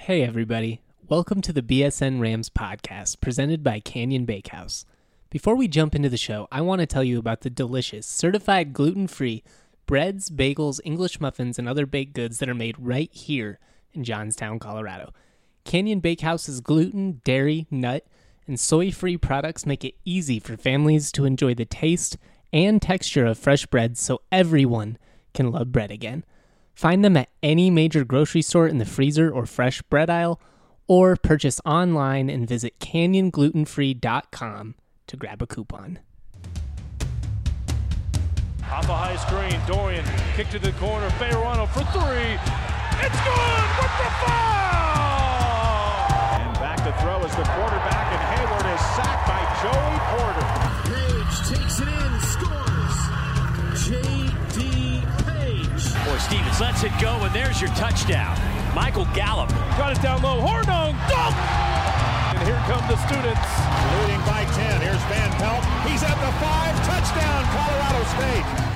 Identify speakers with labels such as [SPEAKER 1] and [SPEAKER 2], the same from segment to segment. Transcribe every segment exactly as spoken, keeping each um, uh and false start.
[SPEAKER 1] Hey everybody, welcome to the B S N Rams podcast presented by Canyon Bakehouse. Before we jump into the show, I want to tell you about the delicious, certified gluten-free breads, bagels, English muffins, and other baked goods that are made right here in Johnstown, Colorado. Canyon Bakehouse's gluten, dairy, nut, and soy-free products make it easy for families to enjoy the taste and texture of fresh bread so everyone can love bread again. Find them at any major grocery store in the freezer or fresh bread aisle, or purchase online and visit canyon gluten free dot com to grab a coupon.
[SPEAKER 2] Off a high screen, Dorian kick to the corner, Fayerano for three. It's good with the foul! And back to throw is the quarterback, and Hayward is sacked by Joey Porter.
[SPEAKER 3] Page takes it in, scores. J D Page.
[SPEAKER 4] Boy, Stevens lets it go, and there's your touchdown. Michael Gallup.
[SPEAKER 2] Got it down low, Hornung, dunk! And here come the students.
[SPEAKER 5] Leading by ten, here's Van Pelt. He's at the five, touchdown, Colorado State.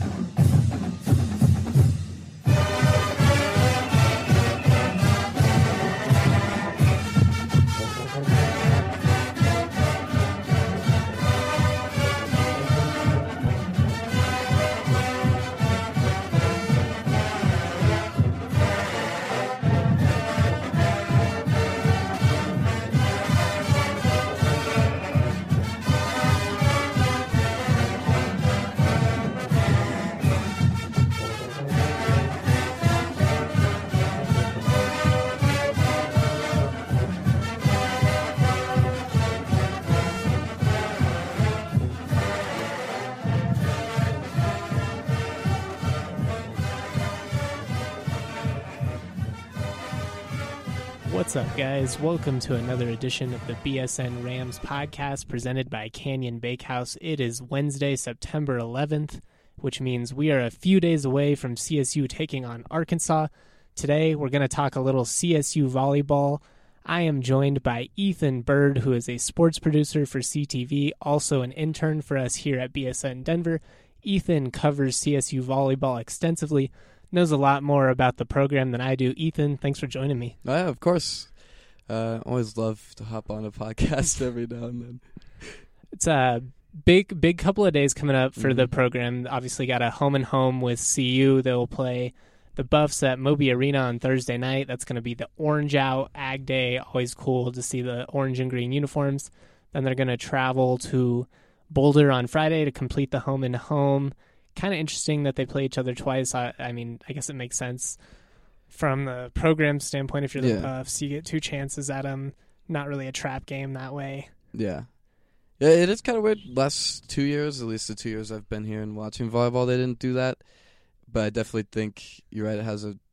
[SPEAKER 1] What's up, guys? Welcome to another edition of the B S N Rams podcast presented by Canyon Bakehouse. It is Wednesday, September eleventh, which means we are a few days away from C S U taking on Arkansas. Today, we're going to talk a little C S U volleyball. I am joined by Ethan Bird, who is a sports producer for C T V, also an intern for us here at B S N Denver. Ethan covers C S U volleyball extensively, knows a lot more about the program than I do. Ethan, thanks for joining me.
[SPEAKER 6] Oh, yeah, of course. Uh, always love to hop on a podcast every now and then.
[SPEAKER 1] It's a big, big couple of days coming up for
[SPEAKER 6] mm-hmm.
[SPEAKER 1] the program. Obviously got a home and home with C U. They'll play the Buffs at Moby Arena on Thursday night. That's going to be the Orange Out Ag Day. Always cool to see the orange and green uniforms. Then they're going to travel to Boulder on Friday to complete the home and home. Kind of interesting that they play each other twice. I, I mean, I guess it makes sense from the program standpoint. If you're the
[SPEAKER 6] yeah.
[SPEAKER 1] Buffs, you get two chances at them. Not really a trap game that way.
[SPEAKER 6] Yeah. Yeah, it is kind of weird. Last two years, at least the two years I've been here and watching volleyball, they didn't do that. But I definitely think you're right. It has a.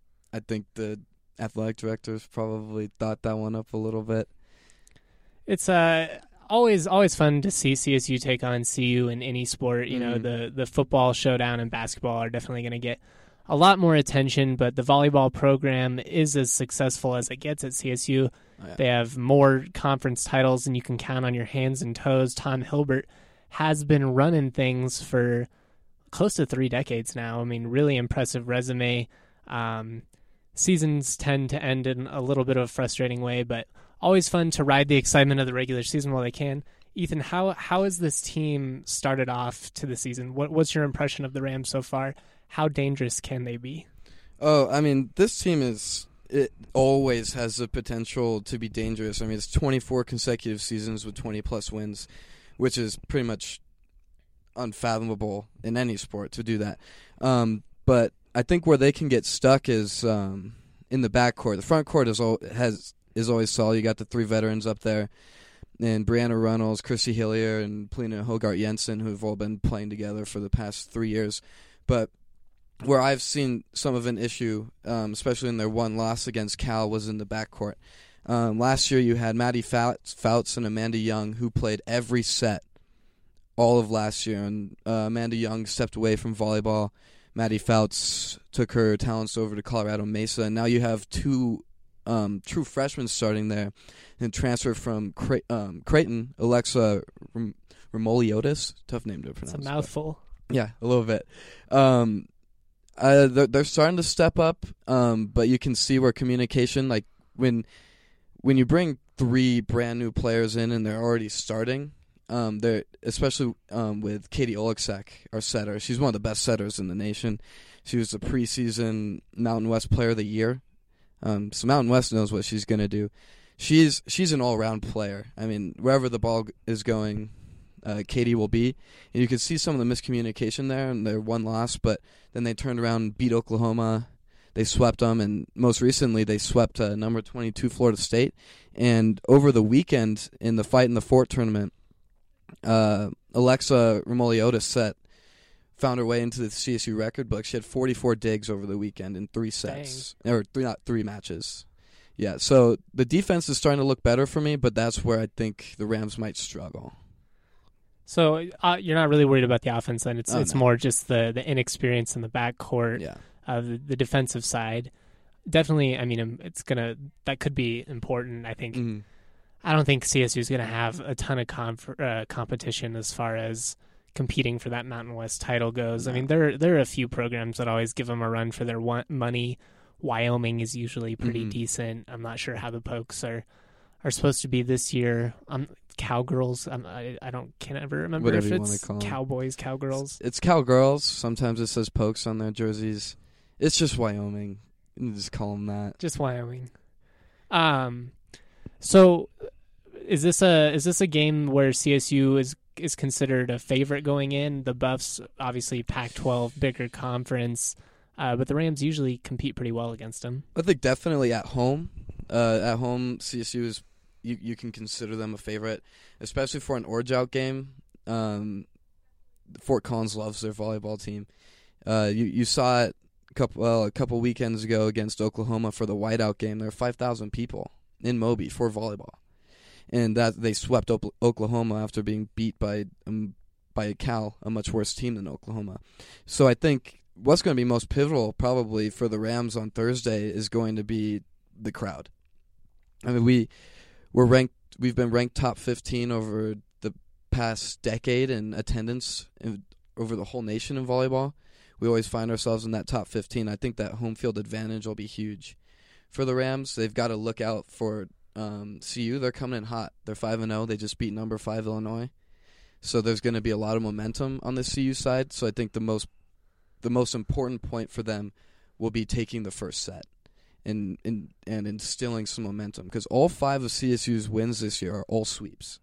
[SPEAKER 6] I think the athletic directors probably thought that one up a little bit.
[SPEAKER 1] It's uh always always fun to see C S U take on C U in any sport. You mm-hmm. know, the the football showdown and basketball are definitely going to get a lot more attention, but the volleyball program is as successful as it gets at C S U. Oh, yeah. They have more conference titles than you can count on your hands and toes. Tom Hilbert has been running things for close to three decades now. I mean, really impressive resume. Um, seasons tend to end in a little bit of a frustrating way, but always fun to ride the excitement of the regular season while they can. Ethan, how how has this team started off to the season? What what's your impression of the Rams so far? How dangerous can they be?
[SPEAKER 6] Oh, I mean, this team is it always has the potential to be dangerous. I mean, it's twenty-four consecutive seasons with twenty plus wins, which is pretty much unfathomable in any sport to do that. Um, but I think where they can get stuck is um, in the backcourt. The front court is all, has is always solid. You got the three veterans up there, and Brianna Reynolds, Chrissy Hillier, and Polina Hogart Jensen, who have all been playing together for the past three years. But where I've seen some of an issue, um, especially in their one loss against Cal, was in the backcourt. Um, last year you had Maddie Fouts, Fouts and Amanda Young, who played every set all of last year. And uh, Amanda Young stepped away from volleyball. Maddie Fouts took her talents over to Colorado Mesa. And now you have two um, true freshmen starting there and transferred from Cray- um, Creighton, Alexa Ram- Remoliotis. Tough name to pronounce.
[SPEAKER 1] It's a mouthful.
[SPEAKER 6] But, yeah, a little bit. Um, uh, they're, they're starting to step up, um, but you can see where communication, like when when you bring three brand new players in and they're already starting, um, they're especially um, with Katie Oleksak, our setter. She's one of the best setters in the nation. She was the preseason Mountain West Player of the Year. Um, so Mountain West knows what she's going to do. She's she's an all-around player. I mean, wherever the ball is going, uh, Katie will be. And you can see some of the miscommunication there, and their one loss, but then they turned around and beat Oklahoma. They swept them, and most recently they swept uh, number twenty-two Florida State. And over the weekend in the Fight in the Fort tournament, uh, Alexa Remoliotis set found her way into the C S U record book. She had forty-four digs over the weekend in three sets, Dang. or three, not three matches. Yeah, so the defense is starting to look better for me, but that's where I think the Rams might struggle.
[SPEAKER 1] So uh, you're not really worried about the offense, then? It's
[SPEAKER 6] oh,
[SPEAKER 1] it's
[SPEAKER 6] no.
[SPEAKER 1] more just the, the inexperience in the backcourt,
[SPEAKER 6] yeah.
[SPEAKER 1] uh, the, the defensive side. Definitely, I mean, it's gonna that could be important. I think.
[SPEAKER 6] Mm-hmm.
[SPEAKER 1] I don't think C S U is going to have a ton of conf- uh, competition as far as competing for that Mountain West title goes. No. I mean, there there are a few programs that always give them a run for their one- money. Wyoming is usually pretty
[SPEAKER 6] mm-hmm.
[SPEAKER 1] decent. I'm not sure how the Pokes are are supposed to be this year. Um, Cowgirls. Um, I I don't can ever remember
[SPEAKER 6] Whatever
[SPEAKER 1] if
[SPEAKER 6] you
[SPEAKER 1] it's
[SPEAKER 6] call
[SPEAKER 1] Cowboys, Cowgirls.
[SPEAKER 6] It's, it's Cowgirls. Sometimes it says Pokes on their jerseys. It's just Wyoming. You can just call them that.
[SPEAKER 1] Just Wyoming. Um. So, is this a is this a game where C S U is is considered a favorite going in? The Buffs, obviously Pac twelve, bigger conference. Uh, but the Rams usually compete pretty well against them.
[SPEAKER 6] I think definitely at home. Uh, at home, C S U is you, you can consider them a favorite, especially for an Orange Out game. Um, Fort Collins loves their volleyball team. Uh, you you saw it a couple well a couple weekends ago against Oklahoma for the Whiteout game. There were five thousand people in Moby for volleyball, and that they swept o- Oklahoma after being beat by um, by Cal, a much worse team than Oklahoma. So I think what's going to be most pivotal probably for the Rams on Thursday is going to be the crowd. I mean, we we're ranked. We've been ranked top fifteen over the past decade in attendance in, over the whole nation in volleyball. We always find ourselves in that top fifteen. I think that home field advantage will be huge for the Rams. They've got to look out for um, C U. They're coming in hot. They're five and zero. They just beat number five Illinois. So there's going to be a lot of momentum on the C U side. So I think the most the most important point for them will be taking the first set and and, and instilling some momentum, because all five of C S U's wins this year are all sweeps.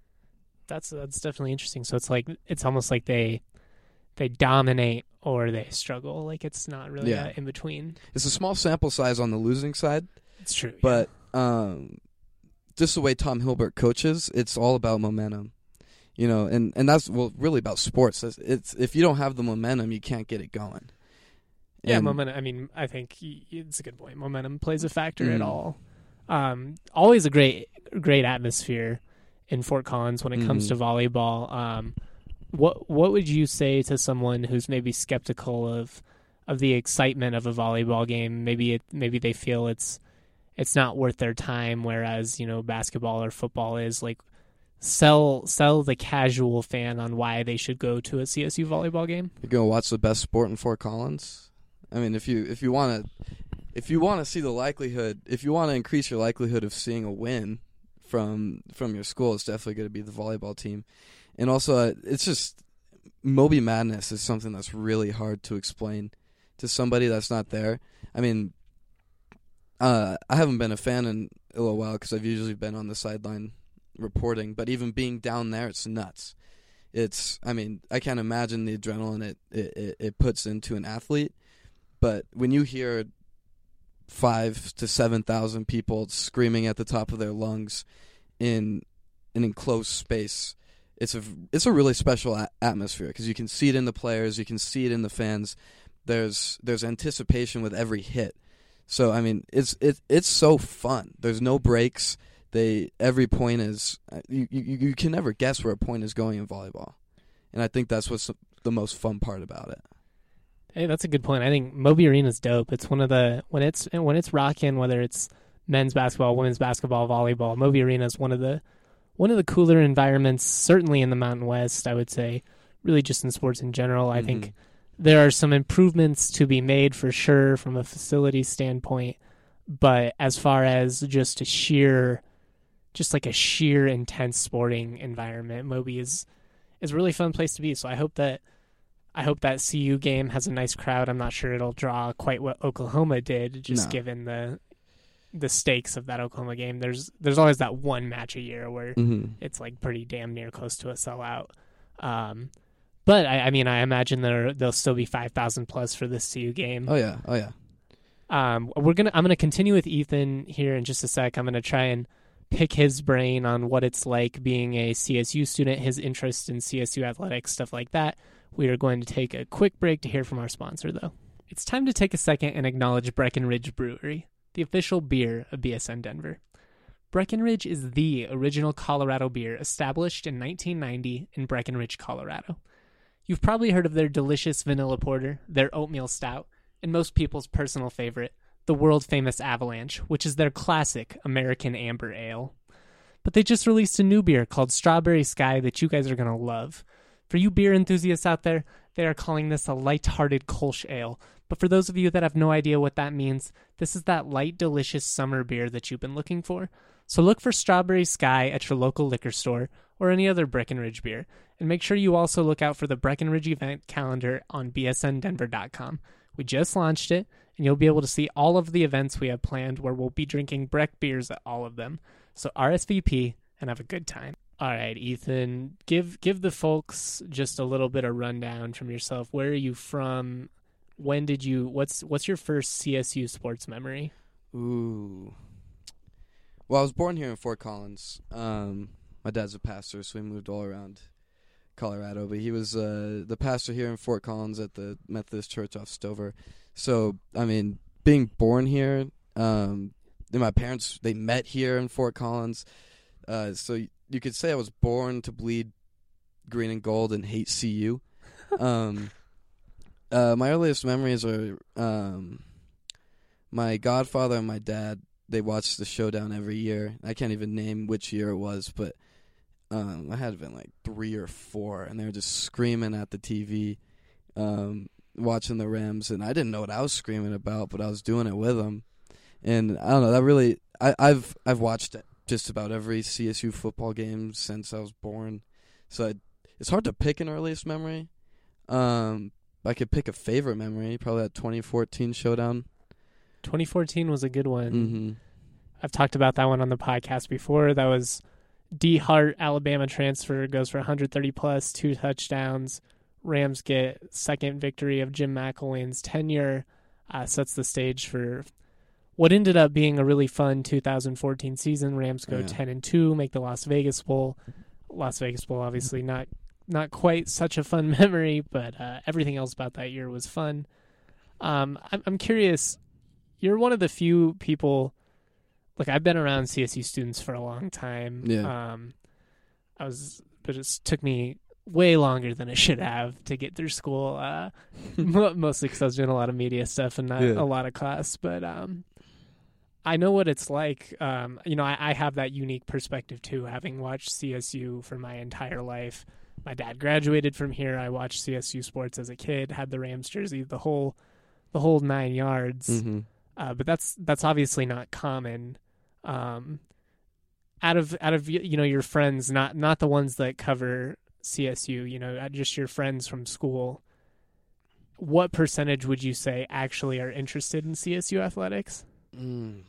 [SPEAKER 1] That's that's definitely interesting. So it's like it's almost like they they dominate or they struggle. Like it's not really
[SPEAKER 6] Yeah.
[SPEAKER 1] in between.
[SPEAKER 6] It's a small sample size on the losing side.
[SPEAKER 1] It's true,
[SPEAKER 6] but um, just the way Tom Hilbert coaches, it's all about momentum. You know, and, and that's well really about sports. It's, it's if you don't have the momentum, you can't get it going.
[SPEAKER 1] Yeah,
[SPEAKER 6] And,
[SPEAKER 1] momentum. I mean, I think y- it's a good point. Momentum plays a factor
[SPEAKER 6] Mhm.
[SPEAKER 1] at all. Um, always a great, great atmosphere in Fort Collins when it comes
[SPEAKER 6] Mhm.
[SPEAKER 1] to volleyball. Um, what what would you say to someone who's maybe skeptical of of the excitement of a volleyball game? Maybe it maybe they feel it's it's not worth their time, whereas you know basketball or football is. Like sell sell the casual fan on why they should go to a C S U volleyball game.
[SPEAKER 6] You're gonna watch the best sport in Fort Collins. I mean, if you if you want to if you want to see the likelihood, if you want to increase your likelihood of seeing a win from from your school, it's definitely going to be the volleyball team. And also, uh, it's just Moby Madness is something that's really hard to explain to somebody that's not there. I mean, uh, I haven't been a fan in a little while because I've usually been on the sideline reporting, but even being down there, it's nuts. It's, I mean, I can't imagine the adrenaline it, it, it puts into an athlete, but when you hear five to seven thousand people screaming at the top of their lungs in an enclosed space, it's a it's a really special a- atmosphere because you can see it in the players, you can see it in the fans. There's there's anticipation with every hit. So I mean, it's it it's so fun. There's no breaks. They every point is you, you you can never guess where a point is going in volleyball, and I think that's what's the most fun part about it.
[SPEAKER 1] Hey, that's a good point. I think Moby Arena's dope. It's one of the when it's when it's rocking, whether it's men's basketball, women's basketball, volleyball. Moby Arena is one of the one of the cooler environments, certainly in the Mountain West. I would say, really just in sports in general. I mm-hmm. think there are some improvements to be made for sure from a facility standpoint. But as far as just a sheer, just like a sheer intense sporting environment, Moby is is a really fun place to be. So I hope that I hope that C U game has a nice crowd. I'm not sure it'll draw quite what Oklahoma did, just
[SPEAKER 6] No.
[SPEAKER 1] given the the stakes of that Oklahoma game. There's there's always that one match a year where
[SPEAKER 6] Mm-hmm.
[SPEAKER 1] it's like pretty damn near close to a sellout. Um, but I, I mean, I imagine there there'll still be five thousand plus for this C U game.
[SPEAKER 6] Oh yeah, oh yeah.
[SPEAKER 1] Um, we're gonna I'm gonna continue with Ethan here in just a sec. I'm gonna try and pick his brain on what it's like being a C S U student, his interest in C S U athletics, stuff like that. We are going to take a quick break to hear from our sponsor, though. It's time to take a second and acknowledge Breckenridge Brewery, the official beer of B S N Denver. Breckenridge is the original Colorado beer established in nineteen ninety in Breckenridge, Colorado. You've probably heard of their delicious vanilla porter, their oatmeal stout, and most people's personal favorite, the world-famous Avalanche, which is their classic American Amber Ale. But they just released a new beer called Strawberry Sky that you guys are going to love. For you beer enthusiasts out there, they are calling this a light-hearted Kolsch Ale. But for those of you that have no idea what that means, this is that light, delicious summer beer that you've been looking for. So look for Strawberry Sky at your local liquor store or any other Breckenridge beer. And make sure you also look out for the Breckenridge event calendar on b s n denver dot com. We just launched it, and you'll be able to see all of the events we have planned where we'll be drinking Breck beers at all of them. So R S V P and have a good time. All right, Ethan, give give the folks just a little bit of rundown from yourself. Where are you from? When did you, what's what's your first C S U sports memory?
[SPEAKER 6] Ooh. Well, I was born here in Fort Collins. Um, my dad's a pastor, so we moved all around Colorado. But he was uh, the pastor here in Fort Collins at the Methodist Church off Stover. So, I mean, being born here, um, my parents, they met here in Fort Collins. Uh, so you could say I was born to bleed green and gold and hate C U. um, uh, my earliest memories are um, my godfather and my dad. They watched the Showdown every year. I can't even name which year it was, but um, I had been like three or four, and they were just screaming at the T V, um, watching the Rams, and I didn't know what I was screaming about, but I was doing it with them. And I don't know, that really, I, I've I've watched just about every C S U football game since I was born, so it, it's hard to pick an earliest memory. Um, I could pick a favorite memory, probably that twenty fourteen Showdown.
[SPEAKER 1] twenty fourteen was a good one.
[SPEAKER 6] Mm-hmm.
[SPEAKER 1] I've talked about that one on the podcast before. That was D. Hart, Alabama transfer, goes for one hundred thirty plus, two touchdowns. Rams get second victory of Jim McElwain's tenure, uh, sets the stage for what ended up being a really fun two thousand fourteen season. Rams go
[SPEAKER 6] Yeah.
[SPEAKER 1] ten and two, make the Las Vegas Bowl. Las Vegas Bowl, obviously not not quite such a fun memory, but uh, everything else about that year was fun. Um, I'm, I'm curious. You're one of the few people. Like, I've been around C S U students for a long time.
[SPEAKER 6] Yeah.
[SPEAKER 1] Um, I was, but it took me way longer than it should have to get through school. Uh, mostly because I was doing a lot of media stuff and not
[SPEAKER 6] Yeah.
[SPEAKER 1] a lot of class. But um, I know what it's like. Um, you know, I, I have that unique perspective too, having watched C S U for my entire life. My dad graduated from here. I watched C S U sports as a kid. Had the Rams jersey, the whole, the whole nine yards.
[SPEAKER 6] Mm-hmm.
[SPEAKER 1] Uh, but that's that's obviously not common. Um, out of out of you know your friends, not not the ones that cover C S U, you know, just your friends from school. What percentage would you say actually are interested in C S U athletics?
[SPEAKER 6] Mm.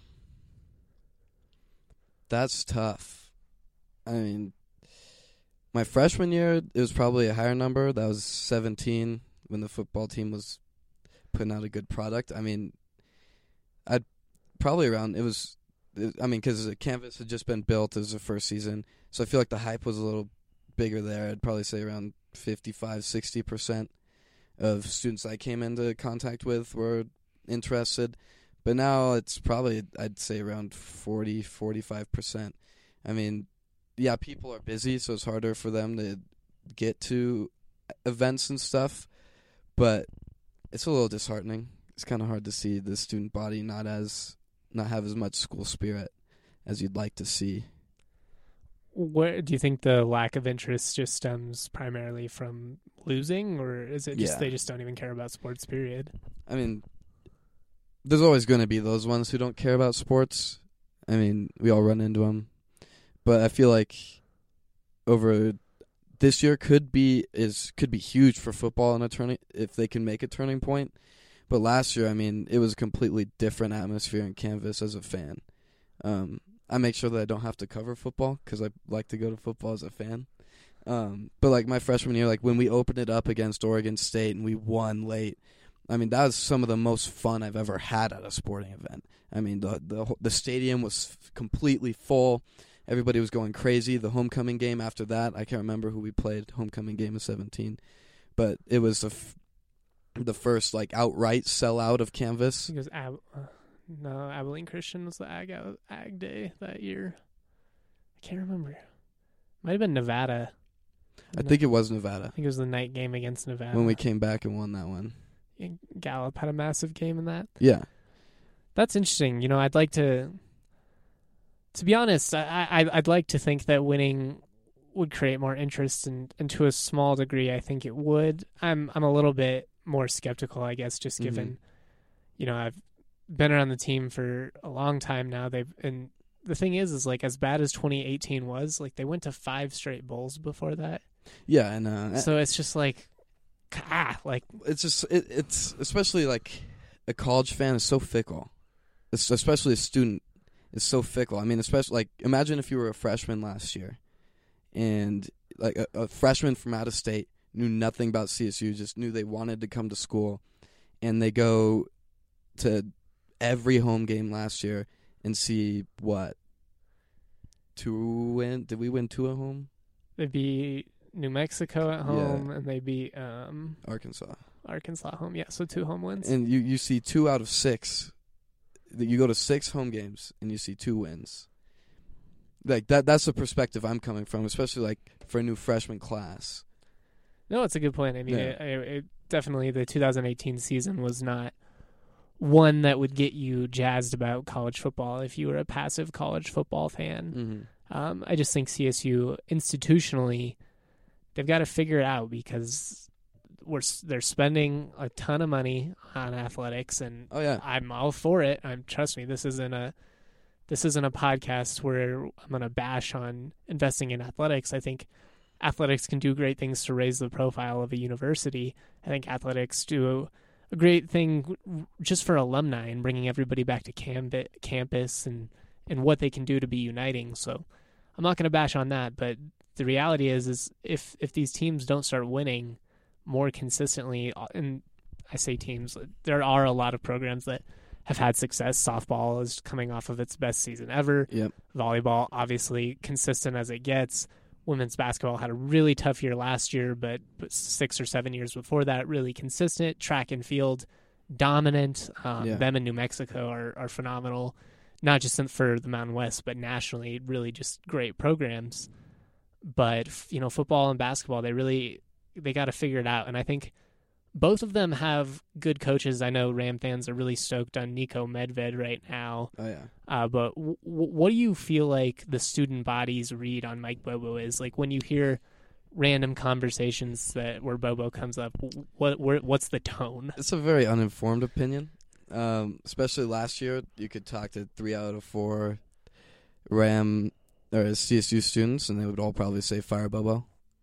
[SPEAKER 6] That's tough. I mean, my freshman year, it was probably a higher number. That was seventeen when the football team was putting out a good product. I mean, I'd probably around, it was, it, I mean, because the campus had just been built. It was the first season. So I feel like the hype was a little bigger there. I'd probably say around fifty-five, sixty percent of students I came into contact with were interested. But now it's probably, I'd say, around forty, forty-five percent. I mean, yeah, people are busy, so it's harder for them to get to events and stuff. But it's a little disheartening. It's kind of hard to see the student body not as not have as much school spirit as you'd like to see.
[SPEAKER 1] Where do you think the lack of interest just stems primarily from losing, or is it just
[SPEAKER 6] Yeah.
[SPEAKER 1] they just don't even care about sports, period?
[SPEAKER 6] I mean, there's always going to be those ones who don't care about sports. I mean, we all run into them. But I feel like over this year could be is could be huge for football in a turning if they can make a turning point. But last year, I mean, it was a completely different atmosphere in Canvas as a fan. Um, I make sure that I don't have to cover football because I like to go to football as a fan. Um, but like my freshman year, like when we opened it up against Oregon State and we won late, I mean that was some of the most fun I've ever had at a sporting event. I mean the the the stadium was completely full. Everybody was going crazy. The homecoming game after that, I can't remember who we played. Homecoming game of seventeen, but it was the f- the first like outright sellout of Canvas.
[SPEAKER 1] I think it was Ab- uh, no Abilene Christian was the Ag Ag Day that year. I can't remember. Might have been Nevada.
[SPEAKER 6] I think it was Nevada.
[SPEAKER 1] I think it was the night game against Nevada
[SPEAKER 6] when we came back and won that one.
[SPEAKER 1] Gallup had a massive game in that.
[SPEAKER 6] Yeah,
[SPEAKER 1] that's interesting. You know, I'd like to. To be honest, I, I I'd like to think that winning would create more interest, and, and to a small degree, I think it would. I'm I'm a little bit more skeptical, I guess, just given, mm-hmm. you know, I've been around the team for a long time now. They've and the thing is, is like as bad as twenty eighteen was, like they went to five straight bowls before that.
[SPEAKER 6] Yeah, and uh,
[SPEAKER 1] so it's just like, ah, like
[SPEAKER 6] it's just it, it's especially like a college fan is so fickle, it's especially a student. It's so fickle. I mean, especially like imagine if you were a freshman last year, and like a, a freshman from out of state knew nothing about C S U, just knew they wanted to come to school, and they go to every home game last year and see what two win? Did we win two at home?
[SPEAKER 1] They beat New Mexico at home, yeah. and they beat um,
[SPEAKER 6] Arkansas.
[SPEAKER 1] Arkansas at home, yeah. So two home wins,
[SPEAKER 6] and you you see two out of six. You go to six home games and you see two wins. Like that that's the perspective I'm coming from, especially like for a new freshman class.
[SPEAKER 1] No, it's a good point. I mean,
[SPEAKER 6] yeah.
[SPEAKER 1] it, it, it definitely the two thousand eighteen season was not one that would get you jazzed about college football if you were a passive college football fan.
[SPEAKER 6] Mm-hmm.
[SPEAKER 1] Um, I just think C S U institutionally, they've got to figure it out because we're they're spending a ton of money on athletics, and
[SPEAKER 6] oh yeah,
[SPEAKER 1] I'm all for it. I'm trust me, this isn't a this isn't a podcast where I'm gonna bash on investing in athletics. I think athletics can do great things to raise the profile of a university. I think athletics do a great thing just for alumni and bringing everybody back to camp- campus and and what they can do to be uniting. So I'm not gonna bash on that, but the reality is is if if these teams don't start winning more consistently, and I say teams, there are a lot of programs that have had success. Softball is coming off of its best season ever.
[SPEAKER 6] Yep.
[SPEAKER 1] Volleyball, obviously consistent as it gets. Women's basketball had a really tough year last year, but, but six or seven years before that, really consistent. Track and field, dominant. Um,
[SPEAKER 6] yeah.
[SPEAKER 1] Them in New Mexico are, are phenomenal, not just for the Mountain West, but nationally, really just great programs. But, you know, football and basketball, they really... they got to figure it out. And I think both of them have good coaches. I know Ram fans are really stoked on Nico Medved right now.
[SPEAKER 6] Oh, yeah.
[SPEAKER 1] Uh, but w- w- what do you feel like the student body's read on Mike Bobo is? Like when you hear random conversations that where Bobo comes up, what where, what's the tone?
[SPEAKER 6] It's a very uninformed opinion. Um, especially last year, you could talk to three out of four Ram or C S U students, and they would all probably say fire Bobo.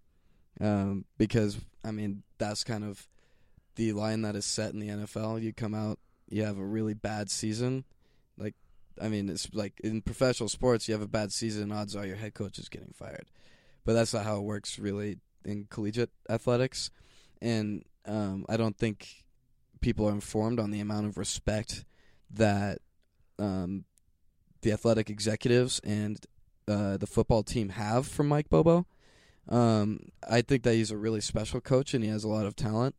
[SPEAKER 6] Um, because, I mean, that's kind of the line that is set in the N F L. You come out, you have a really bad season. Like, I mean, it's like in professional sports, you have a bad season, odds are your head coach is getting fired. But that's not how it works really in collegiate athletics. And um, I don't think people are informed on the amount of respect that um, the athletic executives and uh, the football team have for Mike Bobo. Um, I think that he's a really special coach and he has a lot of talent.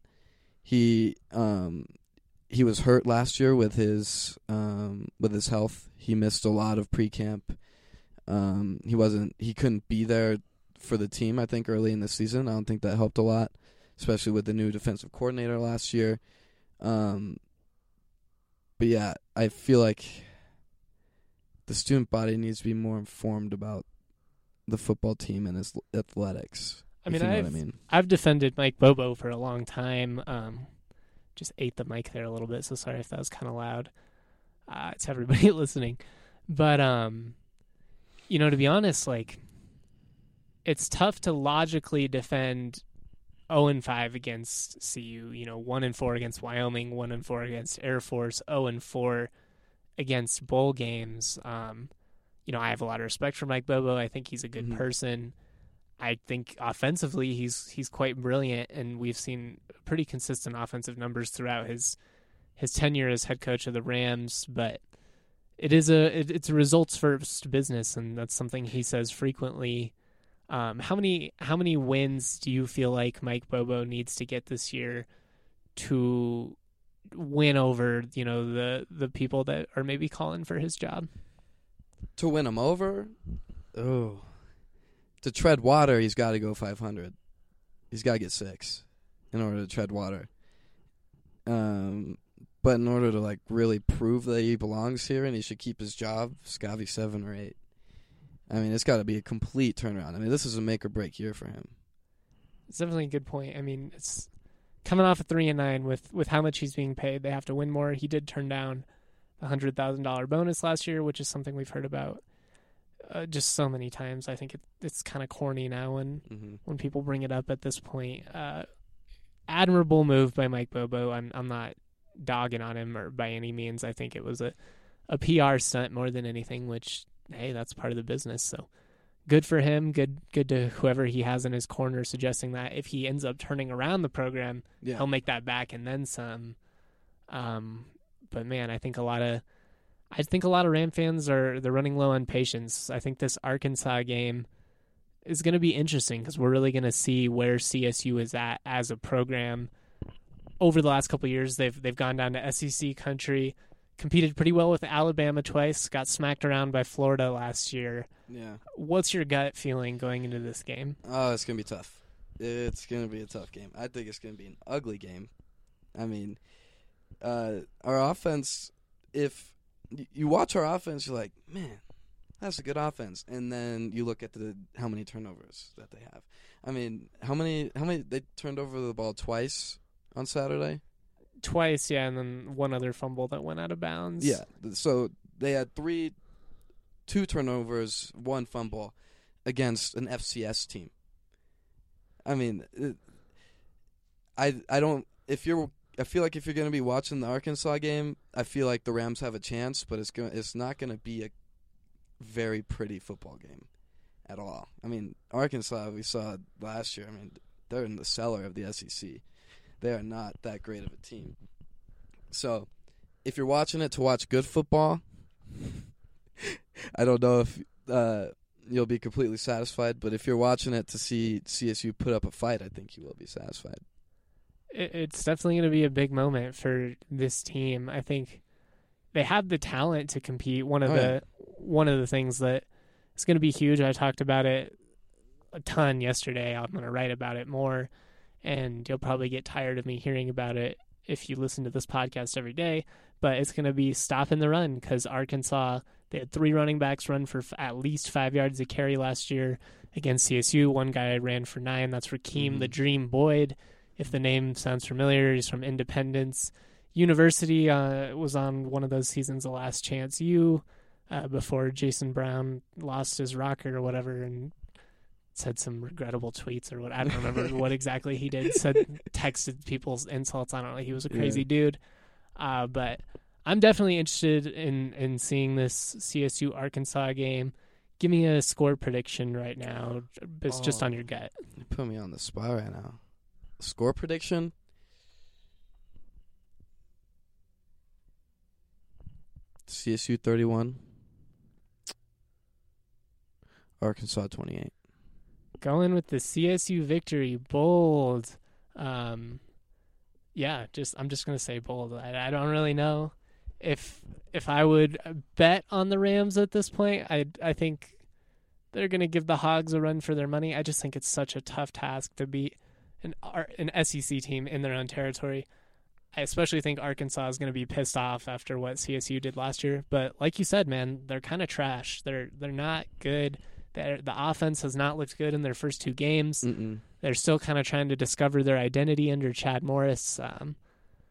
[SPEAKER 6] He um, he was hurt last year with his um, with his health. He missed a lot of pre-camp. Um, he wasn't he couldn't be there for the team, I think, early in the season. I don't think that helped a lot, especially with the new defensive coordinator last year. Um, but yeah, I feel like the student body needs to be more informed about the football team and his athletics.
[SPEAKER 1] I mean,
[SPEAKER 6] you know
[SPEAKER 1] I've,
[SPEAKER 6] what I mean,
[SPEAKER 1] I've defended Mike Bobo for a long time. Um, just ate the mic there a little bit, so sorry if that was kind of loud. Uh, it's everybody listening. But, um, you know, to be honest, like, it's tough to logically defend oh and five against C U, you know, one and four against Wyoming, one and four against Air Force, oh and four against bowl games. Um, you know, I have a lot of respect for Mike Bobo. I think he's a good mm-hmm. person. I think offensively he's he's quite brilliant, and we've seen pretty consistent offensive numbers throughout his his tenure as head coach of the Rams. But it is a it, it's a results first business, and that's something he says frequently. Um, how many how many wins do you feel like Mike Bobo needs to get this year to win over, you know, the the people that are maybe calling for his job?
[SPEAKER 6] To win him over? Oh. To tread water, he's got to go five hundred. He's got to get six in order to tread water. Um, but in order to, like, really prove that he belongs here and he should keep his job, it's got to be seven or eight. I mean, it's got to be a complete turnaround. I mean, this is a make-or-break year for him.
[SPEAKER 1] It's definitely a good point. I mean, it's coming off of three and nine with, with how much he's being paid. They have to win more. He did turn down a hundred thousand dollar bonus last year, which is something we've heard about uh, just so many times. I think it, it's kind of corny now when mm-hmm. when people bring it up at this point. Uh, admirable move by Mike Bobo. I'm I'm not dogging on him or by any means. I think it was a, a P R stunt more than anything, which, hey, that's part of the business. So good for him. Good good to whoever he has in his corner, suggesting that if he ends up turning around the program, yeah. he'll make that back and then some. Um, but man, I think a lot of I think a lot of Ram fans are they're running low on patience. I think this Arkansas game is going to be interesting because we're really going to see where C S U is at as a program. Over the last couple of years, they've they've gone down to S E C country. Competed pretty well with Alabama twice, got smacked around by Florida last year.
[SPEAKER 6] Yeah.
[SPEAKER 1] What's your gut feeling going into this game?
[SPEAKER 6] Oh, it's going to be tough. It's going to be a tough game. I think it's going to be an ugly game. I mean, uh, our offense, if you watch our offense, you're like, man, that's a good offense. And then you look at the how many turnovers that they have. I mean, how many, how many they turned over the ball twice on Saturday?
[SPEAKER 1] Twice, yeah, and then one other fumble that went out of bounds.
[SPEAKER 6] Yeah, so they had three, two turnovers, one fumble against an F C S team. I mean, it, I I don't. If you're, I feel like if you're going to be watching the Arkansas game, I feel like the Rams have a chance, but it's going, it's not going to be a very pretty football game at all. I mean, Arkansas, we saw last year. I mean, they're in the cellar of the S E C. They are not that great of a team. So, if you're watching it to watch good football, I don't know if uh, you'll be completely satisfied, but if you're watching it to see C S U put up a fight, I think you will be satisfied.
[SPEAKER 1] It's definitely going to be a big moment for this team. I think they have the talent to compete. One of oh, the yeah. one of the things that is going to be huge, I talked about it a ton yesterday. I'm going to write about it more. And you'll probably get tired of me hearing about it if you listen to this podcast every day. But it's going to be stopping the run because Arkansas, they had three running backs run for f- at least five yards a carry last year against C S U. One guy ran for nine. That's Rakeem mm-hmm. the Dream Boyd. If the name sounds familiar, he's from Independence University. Uh, was on one of those seasons, The Last Chance U, uh, before Jason Brown lost his rocker or whatever and said some regrettable tweets or what. I don't remember what exactly he did. Said, texted people's insults. I don't know. He was a crazy yeah. dude. Uh, but I'm definitely interested in, in seeing this C S U Arkansas game. Give me a score prediction right now. It's oh, just on your gut.
[SPEAKER 6] You put me on the spot right now. Score prediction? C S U thirty-one. Arkansas twenty-eight.
[SPEAKER 1] Going with the C S U victory, bold. Um, yeah, just I'm just gonna say bold. I, I don't really know if if I would bet on the Rams at this point. I I think they're gonna give the Hogs a run for their money. I just think it's such a tough task to beat an an S E C team in their own territory. I especially think Arkansas is gonna be pissed off after what C S U did last year. But like you said, man, they're kind of trash. They're they're not good. They're, the offense has not looked good in their first two games. Mm-mm. They're still kind of trying to discover their identity under Chad Morris. Um,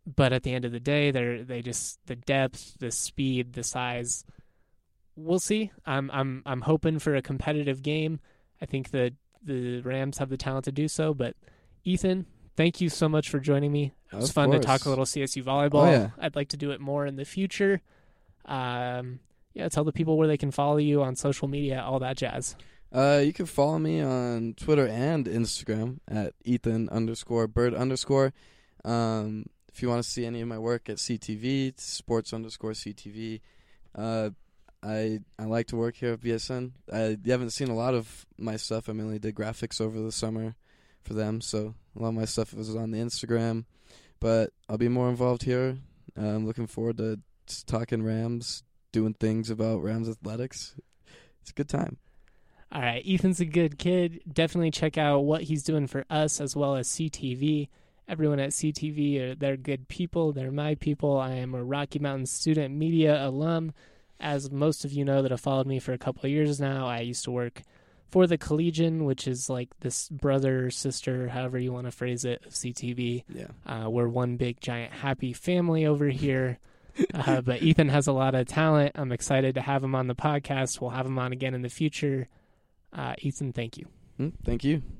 [SPEAKER 1] but at the end of the day, they're they just the depth, the speed, the size. We'll see. I'm I'm I'm hoping for a competitive game. I think the the Rams have the talent to do so. But Ethan, thank you so much for joining me. It was
[SPEAKER 6] Of
[SPEAKER 1] fun
[SPEAKER 6] course.
[SPEAKER 1] to talk a little C S U volleyball.
[SPEAKER 6] Oh, yeah.
[SPEAKER 1] I'd like to do it more in the future. Um, yeah, tell the people where they can follow you on social media, all that jazz.
[SPEAKER 6] Uh, you can follow me on Twitter and Instagram at Ethan underscore Bird underscore. Um, if you want to see any of my work at C T V, it's sports underscore C T V. Uh, I I like to work here at B S N. I you haven't seen a lot of my stuff. I mainly did graphics over the summer for them, so a lot of my stuff was on the Instagram. But I'll be more involved here. Uh, I'm looking forward to just talking Rams, doing things about Rams athletics. It's a good time.
[SPEAKER 1] All right, Ethan's a good kid. Definitely check out what he's doing for us as well as C T V. Everyone at C T V, are, they're good people. They're my people. I am a Rocky Mountain student media alum. As most of you know that have followed me for a couple of years now, I used to work for the Collegian, which is like this brother, sister, however you want to phrase it, of C T V.
[SPEAKER 6] Yeah.
[SPEAKER 1] Uh, we're one big, giant, happy family over here. uh, but Ethan has a lot of talent. I'm excited to have him on the podcast. We'll have him on again in the future. Uh, Ethan, thank you.
[SPEAKER 6] Mm, thank you.